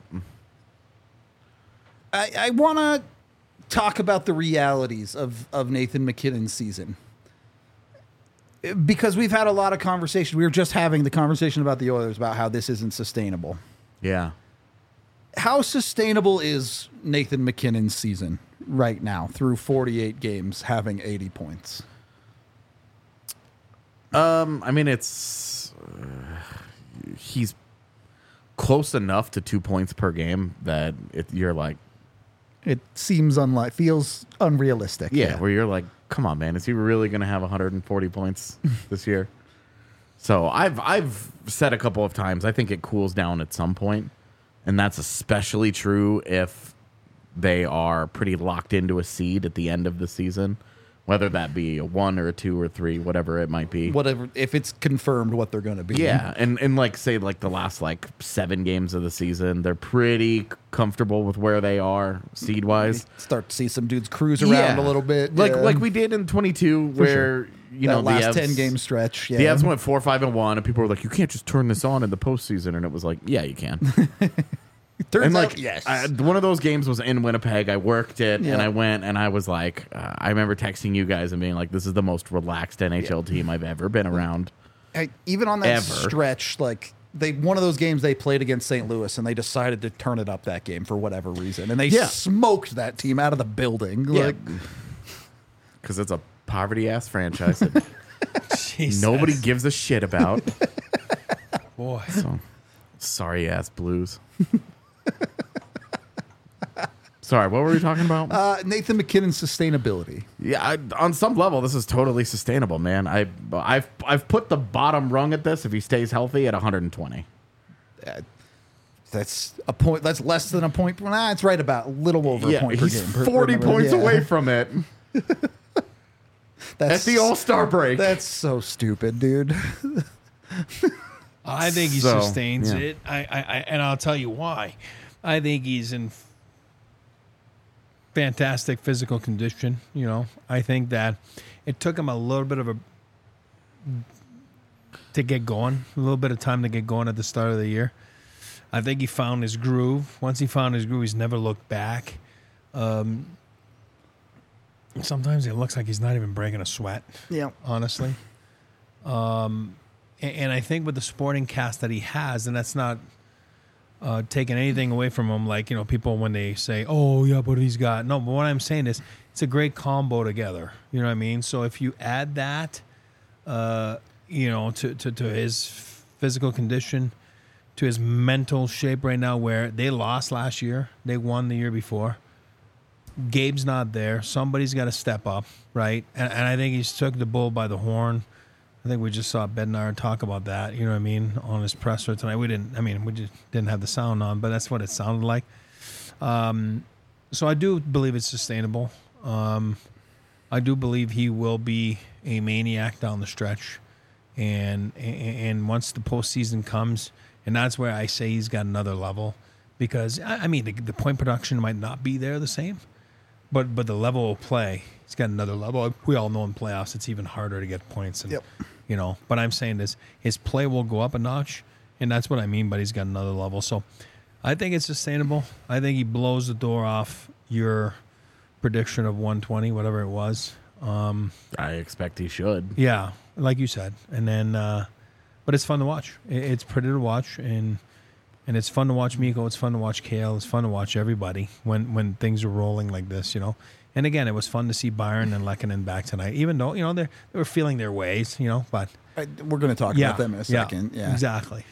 I want to talk about the realities of Nathan MacKinnon's season. Because we've had a lot of conversation. We were just having the conversation about the Oilers about how this isn't sustainable. Yeah. How sustainable is Nathan MacKinnon's season right now through 48 games, having 80 points? I mean, it's he's close enough to 2 points per game that you're like, It seems feels unrealistic. yeah, where you're like, come on, man, is he really going to have 140 points this year? So I've said a couple of times, I think it cools down at some point. And that's especially true if they are pretty locked into a seed at the end of the season, whether that be a 1 or a 2 or 3, whatever it might be. Whatever, if it's confirmed what they're going to be. Yeah, and like say like the last like 7 games of the season, they're pretty comfortable with where they are seed wise. Start to see some dudes cruise around a little bit, like we did in 22, where sure. you know that last the Avs, 10-game stretch. Yeah. The Avs went 4-5-1, and people were like, "You can't just turn this on in the postseason," and it was like, "Yeah, you can." Turns And like, out, yes. one of those games was in Winnipeg. I worked it, and I went, and I was like, I remember texting you guys and being like, "This is the most relaxed NHL team I've ever been around." Even on that Ever. stretch, like one of those games they played against St. Louis, and they decided to turn it up that game for whatever reason, and they smoked that team out of the building. Yeah, Like, because it's a poverty ass franchise that Jesus. nobody gives a shit about. Boy. So, sorry ass Blues. Sorry, what were we talking about? Nathan MacKinnon's sustainability. Yeah, on some level, this is totally sustainable, man. I've put the bottom rung at this if he stays healthy at 120. That's a point. That's less than a point. Nah, it's right about a little over a point per he's game. 40 points Yeah. away from it at the All-Star break. That's so stupid, dude. I think he So, sustains yeah. it. And I'll tell you why. I think he's in fantastic physical condition. You know, I think that it took him a little bit to get going, a little bit of time to get going at the start of the year. I think he found his groove. Once he found his groove, he's never looked back. Sometimes it looks like he's not even breaking a sweat. Yeah. Honestly. And I think with the sporting cast that he has, and that's not taking anything away from him, like, you know, people when they say, "Oh, yeah, but he's got," no, but what I'm saying is it's a great combo together. You know what I mean? So if you add that, you know, to his physical condition, to his mental shape right now, where they lost last year, they won the year before. Gabe's not there. Somebody's got to step up, right? And I think he's took the bull by the horn. I think we just saw Bednar talk about that, you know what I mean, on his presser tonight. We just didn't have the sound on, but that's what it sounded like. So I do believe it's sustainable. I do believe he will be a maniac down the stretch. And once the postseason comes, and that's where I say he's got another level. Because, I mean, the point production might not be there the same, but the level of play, he's got another level. We all know in playoffs it's even harder to get points. And, you know, but I'm saying this, his play will go up a notch, and that's what I mean, but he's got another level. So I think it's sustainable. I think he blows the door off your prediction of 120, whatever it was. I expect he should. Yeah, like you said. And then, but it's fun to watch. It's pretty to watch, and it's fun to watch Mikko. It's fun to watch Kale. It's fun to watch everybody when things are rolling like this, And again, it was fun to see Byron and Lehkonen back tonight, even though, they were feeling their ways, but. We're going to talk about them in a second. Yeah, exactly.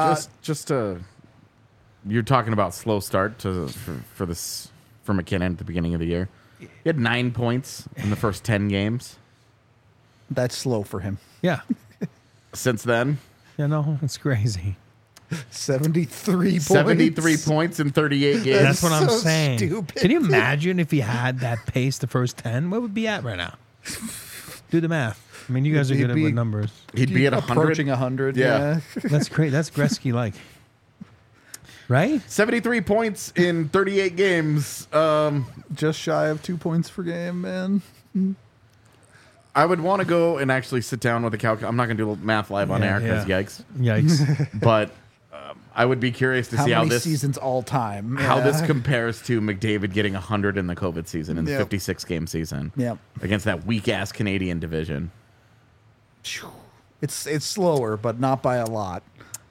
You're talking about slow start for McKinnon at the beginning of the year. He had 9 points in the first 10 games. That's slow for him. Yeah. Since then, it's crazy. 73 points. 73 points in 38 games. That's what I'm so saying. stupid. Can you imagine if he had that pace the first 10? What would be at right now? Do the math. I mean, you guys are good with numbers. He'd be at 100. Approaching 100. Yeah. That's great. That's Gretzky-like. Right? 73 points in 38 games. Just shy of 2 points per game, man. I would want to go and actually sit down with a calculator. I'm not going to do math live on air because yikes. Yikes. But I would be curious to see how this seasons all time. how this compares to McDavid getting 100 in the COVID season in the 56 game season. Yep. Against that weak ass Canadian division. It's slower, but not by a lot.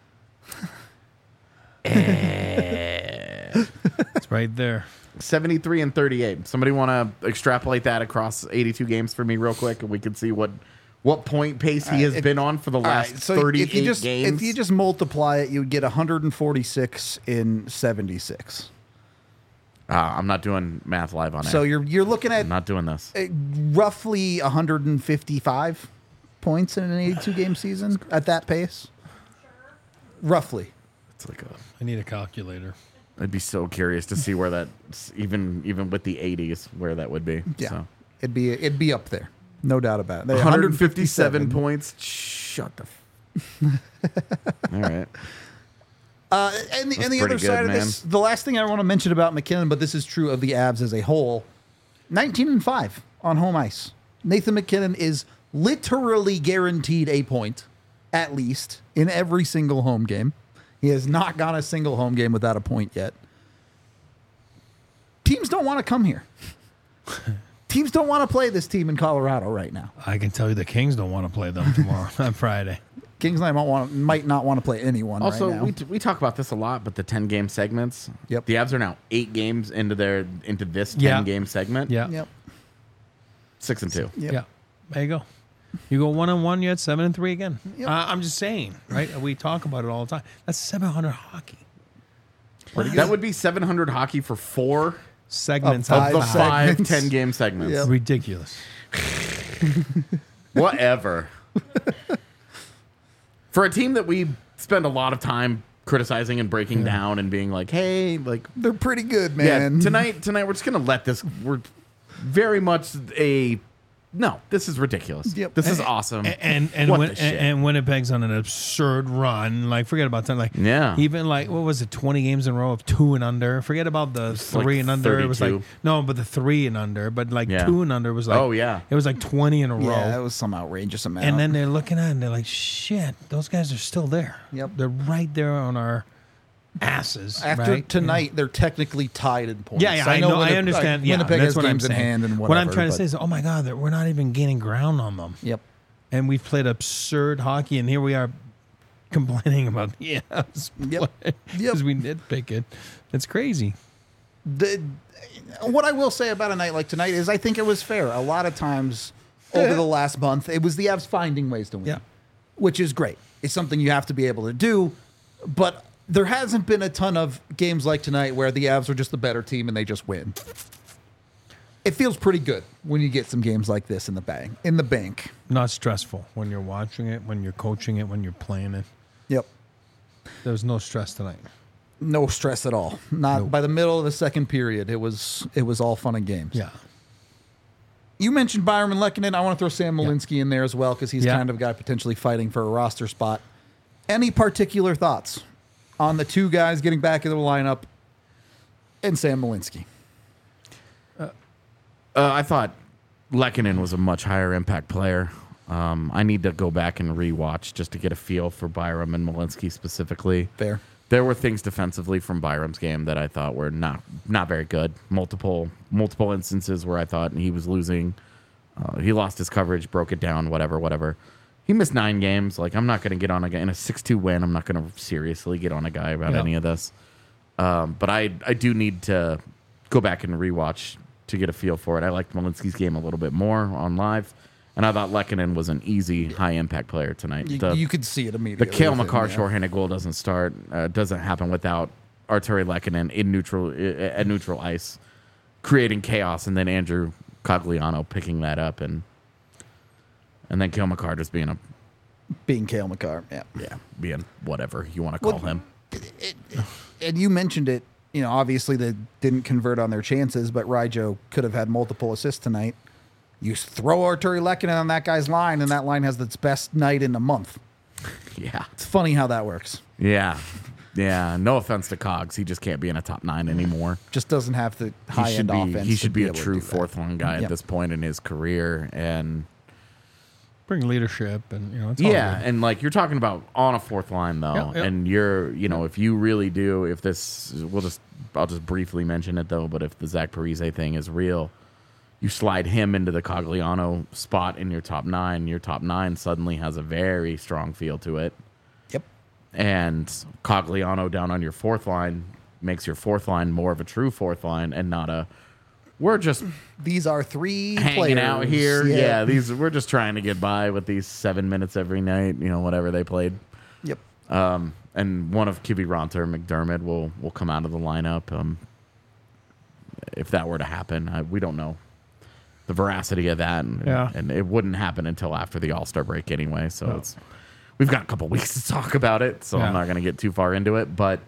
It's right there. 73 and 38. Somebody want to extrapolate that across 82 games for me real quick, and we can see what point pace he has been on for the last 38 games. If you just multiply it, you would get 146 in 76. I'm not doing math live on air. So you're looking at I'm not doing this. Roughly 155 points in an 82 game season at that pace. Roughly. It's like I need a calculator. I'd be so curious to see where that even with the 80s where that would be. Yeah. So. It'd be up there. No doubt about it. 157 points. Shut the All right. And the other pretty side good, of this, the last thing I want to mention about McKinnon, but this is true of the Avs as a whole, 19-5 on home ice. Nathan McKinnon is literally guaranteed a point, at least, in every single home game. He has not gone a single home game without a point yet. Teams don't want to come here. Teams don't want to play this team in Colorado right now. I can tell you the Kings don't want to play them tomorrow on Friday. Kings might not want to play anyone Also, right now. we talk about this a lot, but the 10 game segments. Yep. The Avs are now 8 games into this 10 game segment. Yeah. Yep. 6-2. Yep. Yeah. There you go. You go 1-1, you had 7-3 again. Yep. I'm just saying, right? We talk about it all the time. That's 700 hockey. That would be 700 hockey for 4 Segments Of out of of the five. 5 10 game segments. Yep. Ridiculous. Whatever. For a team that we spend a lot of time criticizing and breaking down and being like, hey, like, They're pretty good, yeah, man. tonight we're just gonna let this. We're very much no. This is ridiculous. Yep. This is awesome. And Winnipeg's on an absurd run. Like, forget about that. Like, Yeah. even like, what was it, 20 games in a row of 2 and under. Forget about the 3 like and under. It was like 32. no, but the 3 and under. But like Yeah. 2 and under was like, Oh, yeah. it was like 20 in a row. Yeah, that was some outrageous amount. And then they're looking at it and they're like, shit, those guys are still there. Yep. They're right there on our asses. after right? tonight, they're technically tied in points. Yeah, I know. I Winnipeg- understand. Yeah, Winnipeg that's has what I'm games in saying. hand and whatever. What I'm trying to but- say is, oh my God, that we're not even gaining ground on them. Yep. And we've played absurd hockey, and here we are complaining about the Avs Yep. because we nitpick it. It's crazy. What I will say about a night like tonight is I think it was fair. A lot of times over the last month, it was the Avs finding ways to win, Yeah. which is great. It's something you have to be able to do, but there hasn't been a ton of games like tonight where the Avs are just the better team and they just win. It feels pretty good when you get some games like this in the bank. Not stressful when you're watching it, when you're coaching it, when you're playing it. Yep. There was no stress tonight. No stress at all. Not Nope. by the middle of the second period. It was all fun and games. Yeah. You mentioned Byron Lehkonen. I want to throw Sam Malinsky in there as well because he's Yeah. kind of a guy potentially fighting for a roster spot. Any particular thoughts on the two guys getting back in the lineup and Sam Malinsky? I thought Lehkonen was a much higher impact player. I need to go back and rewatch just to get a feel for Byram and Malinsky specifically. Fair. There were things defensively from Byram's game that I thought were not very good. Multiple instances where I thought he was losing He lost his coverage, broke it down, whatever. He missed 9 games. Like, I'm not going to get on a guy in a 6-2 win. I'm not going to seriously get on a guy about any of this. But I do need to go back and rewatch to get a feel for it. I liked Malinsky's game a little bit more on live, and I thought Lehkonen was an easy, high-impact player tonight. You could see it immediately. The Cale with him, Makar yeah. shorthanded goal doesn't happen without Arturi Lehkonen at neutral ice, creating chaos, and then Andrew Cogliano picking that up, and then Cale Makar just being Cale Makar, yeah. being whatever you want to call him. And you mentioned it, obviously they didn't convert on their chances, but Ryjo could have had multiple assists tonight. You throw Arturi Lehkonen on that guy's line, and that line has its best night in a month. Yeah. It's funny how that works. Yeah. No offense to Cogs. He just can't be in a top 9 anymore. Just doesn't have the high-end offense. He should be a able to true do that. fourth-line guy at this point in his career. And Bring leadership and, it's all yeah, good. and like you're talking about on a fourth line though, Yeah. and you're, if you really do, I'll just briefly mention it though, but if the Zach Parise thing is real, you slide him into the Cogliano spot in your top 9. Your top 9 suddenly has a very strong feel to it. Yep. And Cogliano down on your fourth line makes your fourth line more of a true fourth line and not we're just These are 3 hanging players. out here. Yeah, we're just trying to get by with these 7 minutes every night, whatever they played. Yep. And one of Kiviranta or McDermott will come out of the lineup. If that were to happen, we don't know the veracity of that, and it wouldn't happen until after the All-Star break anyway. So we've got a couple weeks to talk about it, so I'm not going to get too far into it. But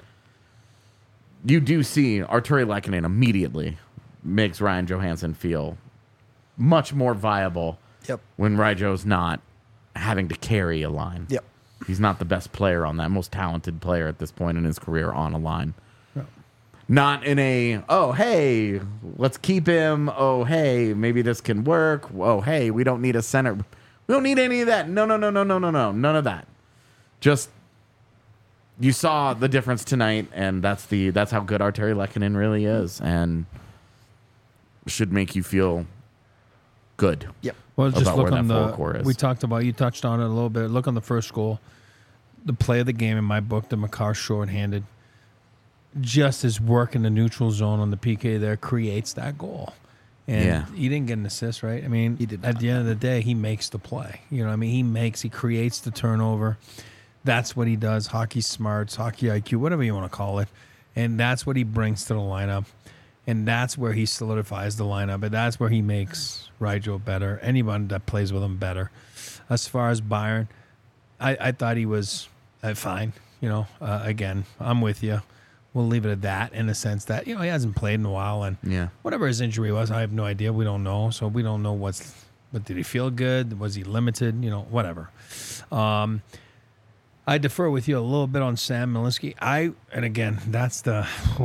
you do see Arturi Lehkonen immediately makes Ryan Johansson feel much more viable. Yep. When Ryjo's not having to carry a line. Yep. He's not the best player on that, most talented player at this point in his career on a line. Not in hey, let's keep him. Oh, hey, maybe this can work. Oh, hey, we don't need a center. We don't need any of that. No. None of that. Just, you saw the difference tonight, and that's how good Arturi Lehkonen really is, and should make you feel good. Yep. Well, just about look where on that forward core is. we talked about, you touched on it a little bit. Look on the first goal. The play of the game in my book, the Makar shorthanded, just his work in the neutral zone on the PK there creates that goal. And he didn't get an assist, right? I mean, He did at not. the end of the day, he makes the play. He creates the turnover. That's what he does. Hockey smarts, hockey IQ, whatever you want to call it. And that's what he brings to the lineup. And that's where he solidifies the lineup. And that's where he makes Ryjo better. Anyone that plays with him better. As far as Byron, I thought he was fine. Again, I'm with you. We'll leave it at that in the sense that, he hasn't played in a while. And whatever his injury was, I have no idea. We don't know. So we don't know but did he feel good? Was he limited? Whatever. I defer with you a little bit on Sam Malinsky. And again, that's the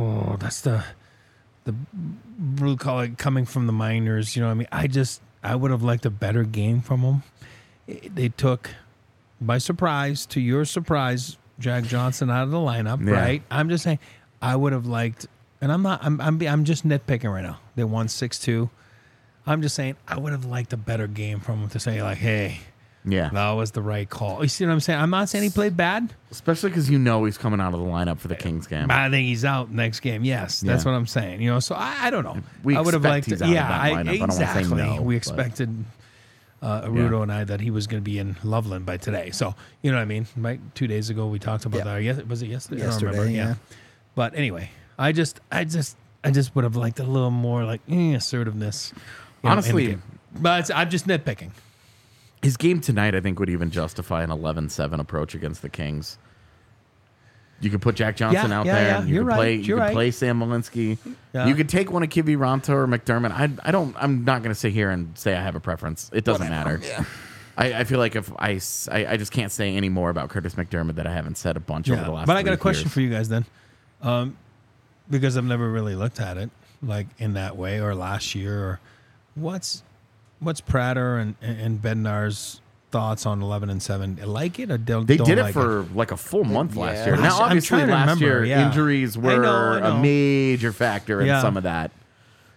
blue collar coming from the minors. I would have liked a better game from him. They took, by surprise, to your surprise, Jack Johnson out of the lineup, right? I'm just saying, I would have liked, and I'm just nitpicking right now. They won 6-2. I'm just saying, I would have liked a better game from him to say, like, hey, that was the right call. You see what I'm saying? I'm not saying he played bad. Especially because he's coming out of the lineup for the Kings game. I think he's out next game. Yes, that's what I'm saying. So I don't know. We I would have liked expect he's out of that lineup. I don't wanna say exactly. no, We but- expected Rudo and I that he was going to be in Loveland by today. So, you know what I mean? Right? 2 days ago, we talked about that. Yes, was it yesterday? I don't remember. Yesterday, yeah. But anyway, I just would have liked a little more like assertiveness. Honestly, but I'm just nitpicking. his game tonight, I think, would even justify an 11-7 approach against the Kings. You could put Jack Johnson out there. Yeah. And you You're could right. play. You're You could right. play Sam Malinsky. Yeah. You could take one of Kiviranta or McDermott. I'm not going to sit here and say I have a preference. It doesn't matter. Yeah. I feel like if I just can't say any more about Curtis McDermott that I haven't said a bunch over the last. But I got a 3 question years. for you guys then, because I've never really looked at it like in that way or last year. Or what's Prater and Bednar's thoughts on 11-7? Like it or don't? They don't did it like for like a full month last Yeah. year. Now, I'm obviously, trying to last remember, year yeah. injuries I were know. a major factor in Yeah. some of that.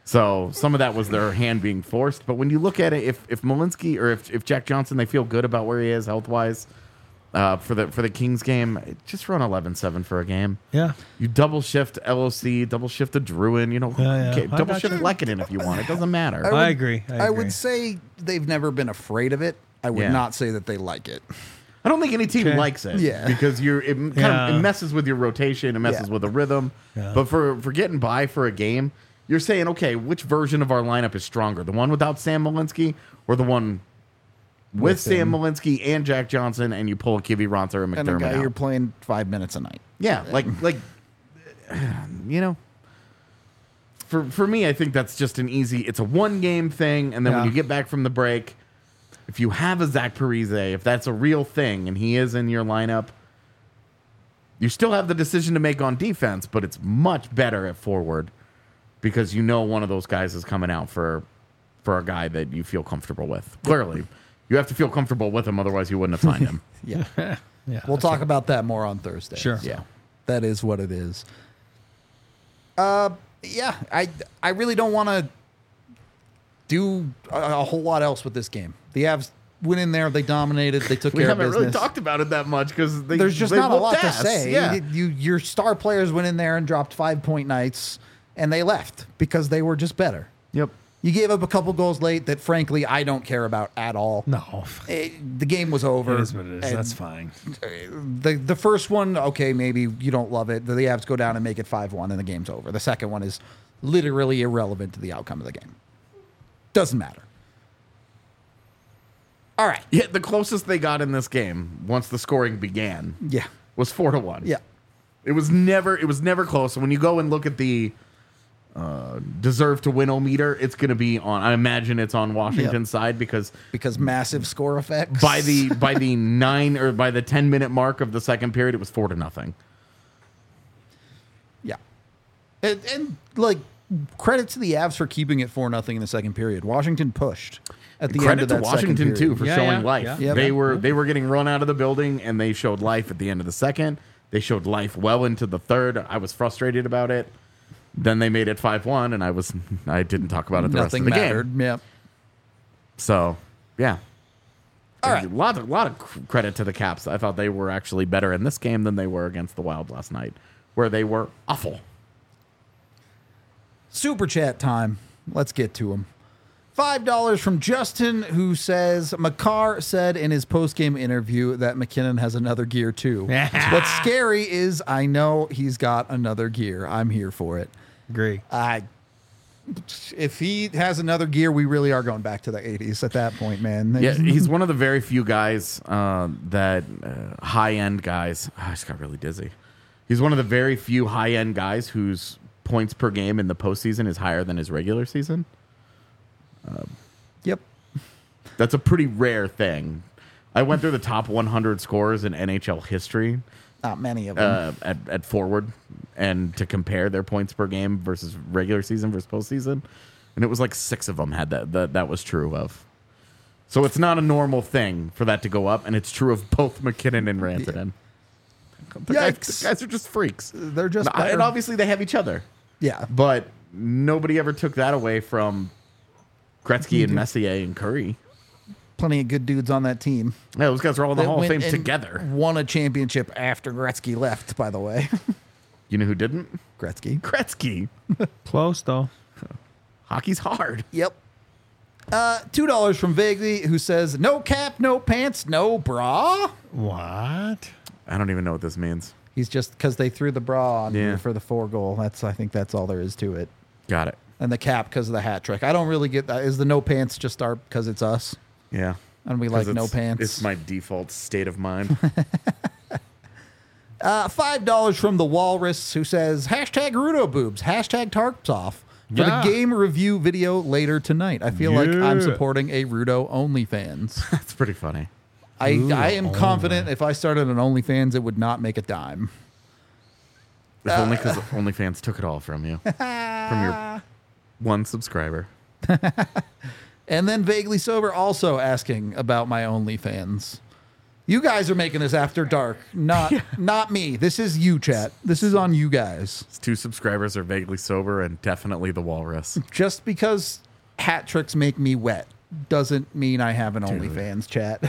So some of that was their hand being forced. But when you look at it, if Malinsky or if Jack Johnson, they feel good about where he is health wise for the Kings game, just run 11-7 for a game. Yeah. You double shift LOC, double shift the Druin, Yeah. okay, I double got shift you. Lekanen if you want. It doesn't matter. I agree. I would say they've never been afraid of it. I would Yeah. not say that they like it. I don't think any team Okay. likes it. Yeah. Because it messes with your rotation, it messes Yeah. with the rhythm. Yeah. But for getting by for a game, you're saying, okay, which version of our lineup is stronger? The one without Sam Malinsky or the one with Sam him. Malinsky and Jack Johnson, and you pull Kivy Ronter and And a McDermott guy out? you're playing 5 minutes a night. Yeah, like for me, I think that's just an easy. It's a one game thing, and then when Yeah. you get back from the break, if you have a Zach Parise, if that's a real thing, and he is in your lineup, you still have the decision to make on defense, but it's much better at forward because you know one of those guys is coming out for a guy that you feel comfortable with. Clearly, you have to feel comfortable with him, otherwise you wouldn't have signed him. Yeah. Yeah. We'll talk about that more on Thursday. Sure. Yeah. That is what it is. Yeah, I really don't want to do a whole lot else with this game. The Avs went in there, they dominated, they took We care of haven't business. really talked about it that much because There's just not a lot to ass. say. Yeah. Your star players went in there and dropped 5-point nights, and they left because they were just better. Yep. You gave up a couple goals late that, frankly, I don't care about at all. No. The game was over. It is what it is. and That's fine. The first one, okay, maybe you don't love it. The Avs go down and make it 5-1, and the game's over. The second one is literally irrelevant to the outcome of the game. Doesn't matter. All right. Yeah, the closest they got in this game once the scoring began Yeah. was 4-1. Yeah. It was never close. When you go and look at the deserve to win meter, it's going to be on. I imagine it's on Washington's side because Massive score effects. by the 10-minute mark of the second period, it was 4-0. Yeah. And like, credit to the Avs for keeping it 4-0 in the second period. Washington pushed at the end Credit of to that second Washington period. too for Yeah, showing yeah, life. yeah. Yeah. They were getting run out of the building, and they showed life at the end of the second. They showed life well into the third. I was frustrated about it. Then they made it 5-1, and I didn't talk about it the Nothing rest of the mattered. game. Yeah. So yeah, All right. A lot of credit to the Caps. I thought they were actually better in this game than they were against the Wild last night, where they were awful. Super chat time. Let's get to them. $5 from Justin, who says, Makar said in his post-game interview that McKinnon has another gear too. What's scary is I know he's got another gear. I'm here for it. Agree. If he has another gear, we really are going back to the 80s at that point, man. Yeah, he's one of the very few guys that high-end guys. I just got really dizzy. He's one of the very few high-end guys whose points per game in the postseason is higher than his regular season. Yep. That's a pretty rare thing. I went through the top 100 scorers in NHL history Not many of them. at forward, and to compare their points per game versus regular season versus postseason, and it was like 6 of them had that was true of. So it's not a normal thing for that to go up, and it's true of both McKinnon and Rantanen. The guys are just freaks. They're just And better. obviously they have each other, Yeah. but nobody ever took that away from Gretzky and Messier and Curry. Plenty of good dudes on that team. Yeah, those guys are all in the That Hall of went Fame and together. Won a championship after Gretzky left, by the way. You know who didn't? Gretzky. Gretzky. Close, though. Hockey's hard. Yep. $2 from Vaguely, who says, no cap, no pants, no bra. What? I don't even know what this means. He's just because they threw the bra on Yeah. you for the 4 goal. I think that's all there is to it. Got it. And the cap because of the hat trick. I don't really get that. Is the no pants just our because it's us Yeah. and we like 'Cause no it's- pants? It's my default state of mind. $5 from the Walrus, who says, hashtag Rudo boobs, hashtag tarps off for Yeah. the game review video later tonight. I feel like I'm Yeah. supporting a Rudo OnlyFans. That's pretty funny. I am confident if I started an OnlyFans, it would not make a dime. If only because OnlyFans took it all from you. From your one subscriber. And then Vaguely Sober also asking about my OnlyFans. You guys are making this after dark, not me. This is you, chat. This is on you guys. 2 subscribers are vaguely sober and definitely the walrus. Just because hat tricks make me wet doesn't mean I have an OnlyFans, chat.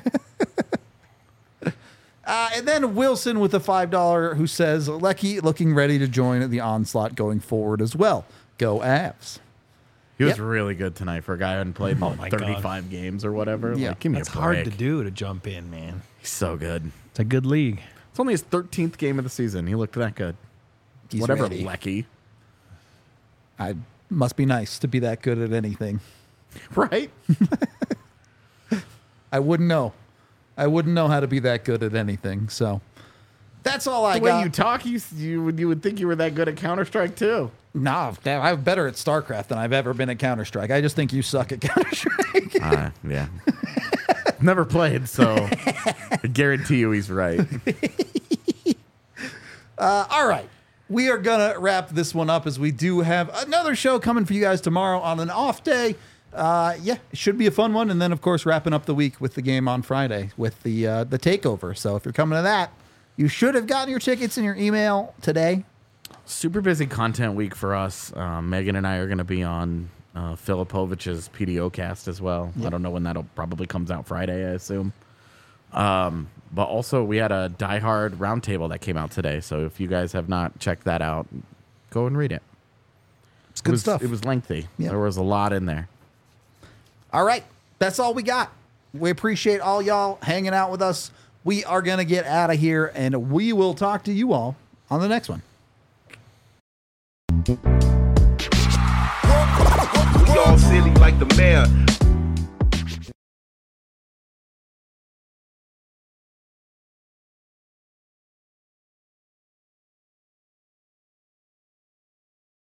And then Wilson with a $5 who says, Lecky looking ready to join the onslaught going forward as well. Go Avs. He was really good tonight for a guy who hadn't played in 35 games or whatever. Yeah. Like, give me That's a break. hard to do, to jump in, man. He's so good. It's a good league. It's only his 13th game of the season. He looked that good. He's Whatever, ready. Lecky. I must be nice to be that good at anything. Right? I wouldn't know. I wouldn't know how to be that good at anything. So that's all I The way got. you talk, you would think you were that good at Counter-Strike, too. Nah, I'm better at StarCraft than I've ever been at Counter-Strike. I just think you suck at Counter-Strike. Yeah. Never played, so I guarantee you he's right. All right. We are going to wrap this one up as we do have another show coming for you guys tomorrow on an off day. It should be a fun one. And then, of course, wrapping up the week with the game on Friday with the takeover. So if you're coming to that, you should have gotten your tickets in your email today. Super busy content week for us. Megan and I are going to be on Filipovich's PDO cast as well. Yep. I don't know when that'll probably comes out Friday, I assume. But also we had a Die Hard roundtable that came out today. So if you guys have not checked that out, go and read it. It's good stuff. It was lengthy. Yep. There was a lot in there. All right. That's all we got. We appreciate all y'all hanging out with us. We are going to get out of here, and we will talk to you all on the next one. We all silly like the mayor.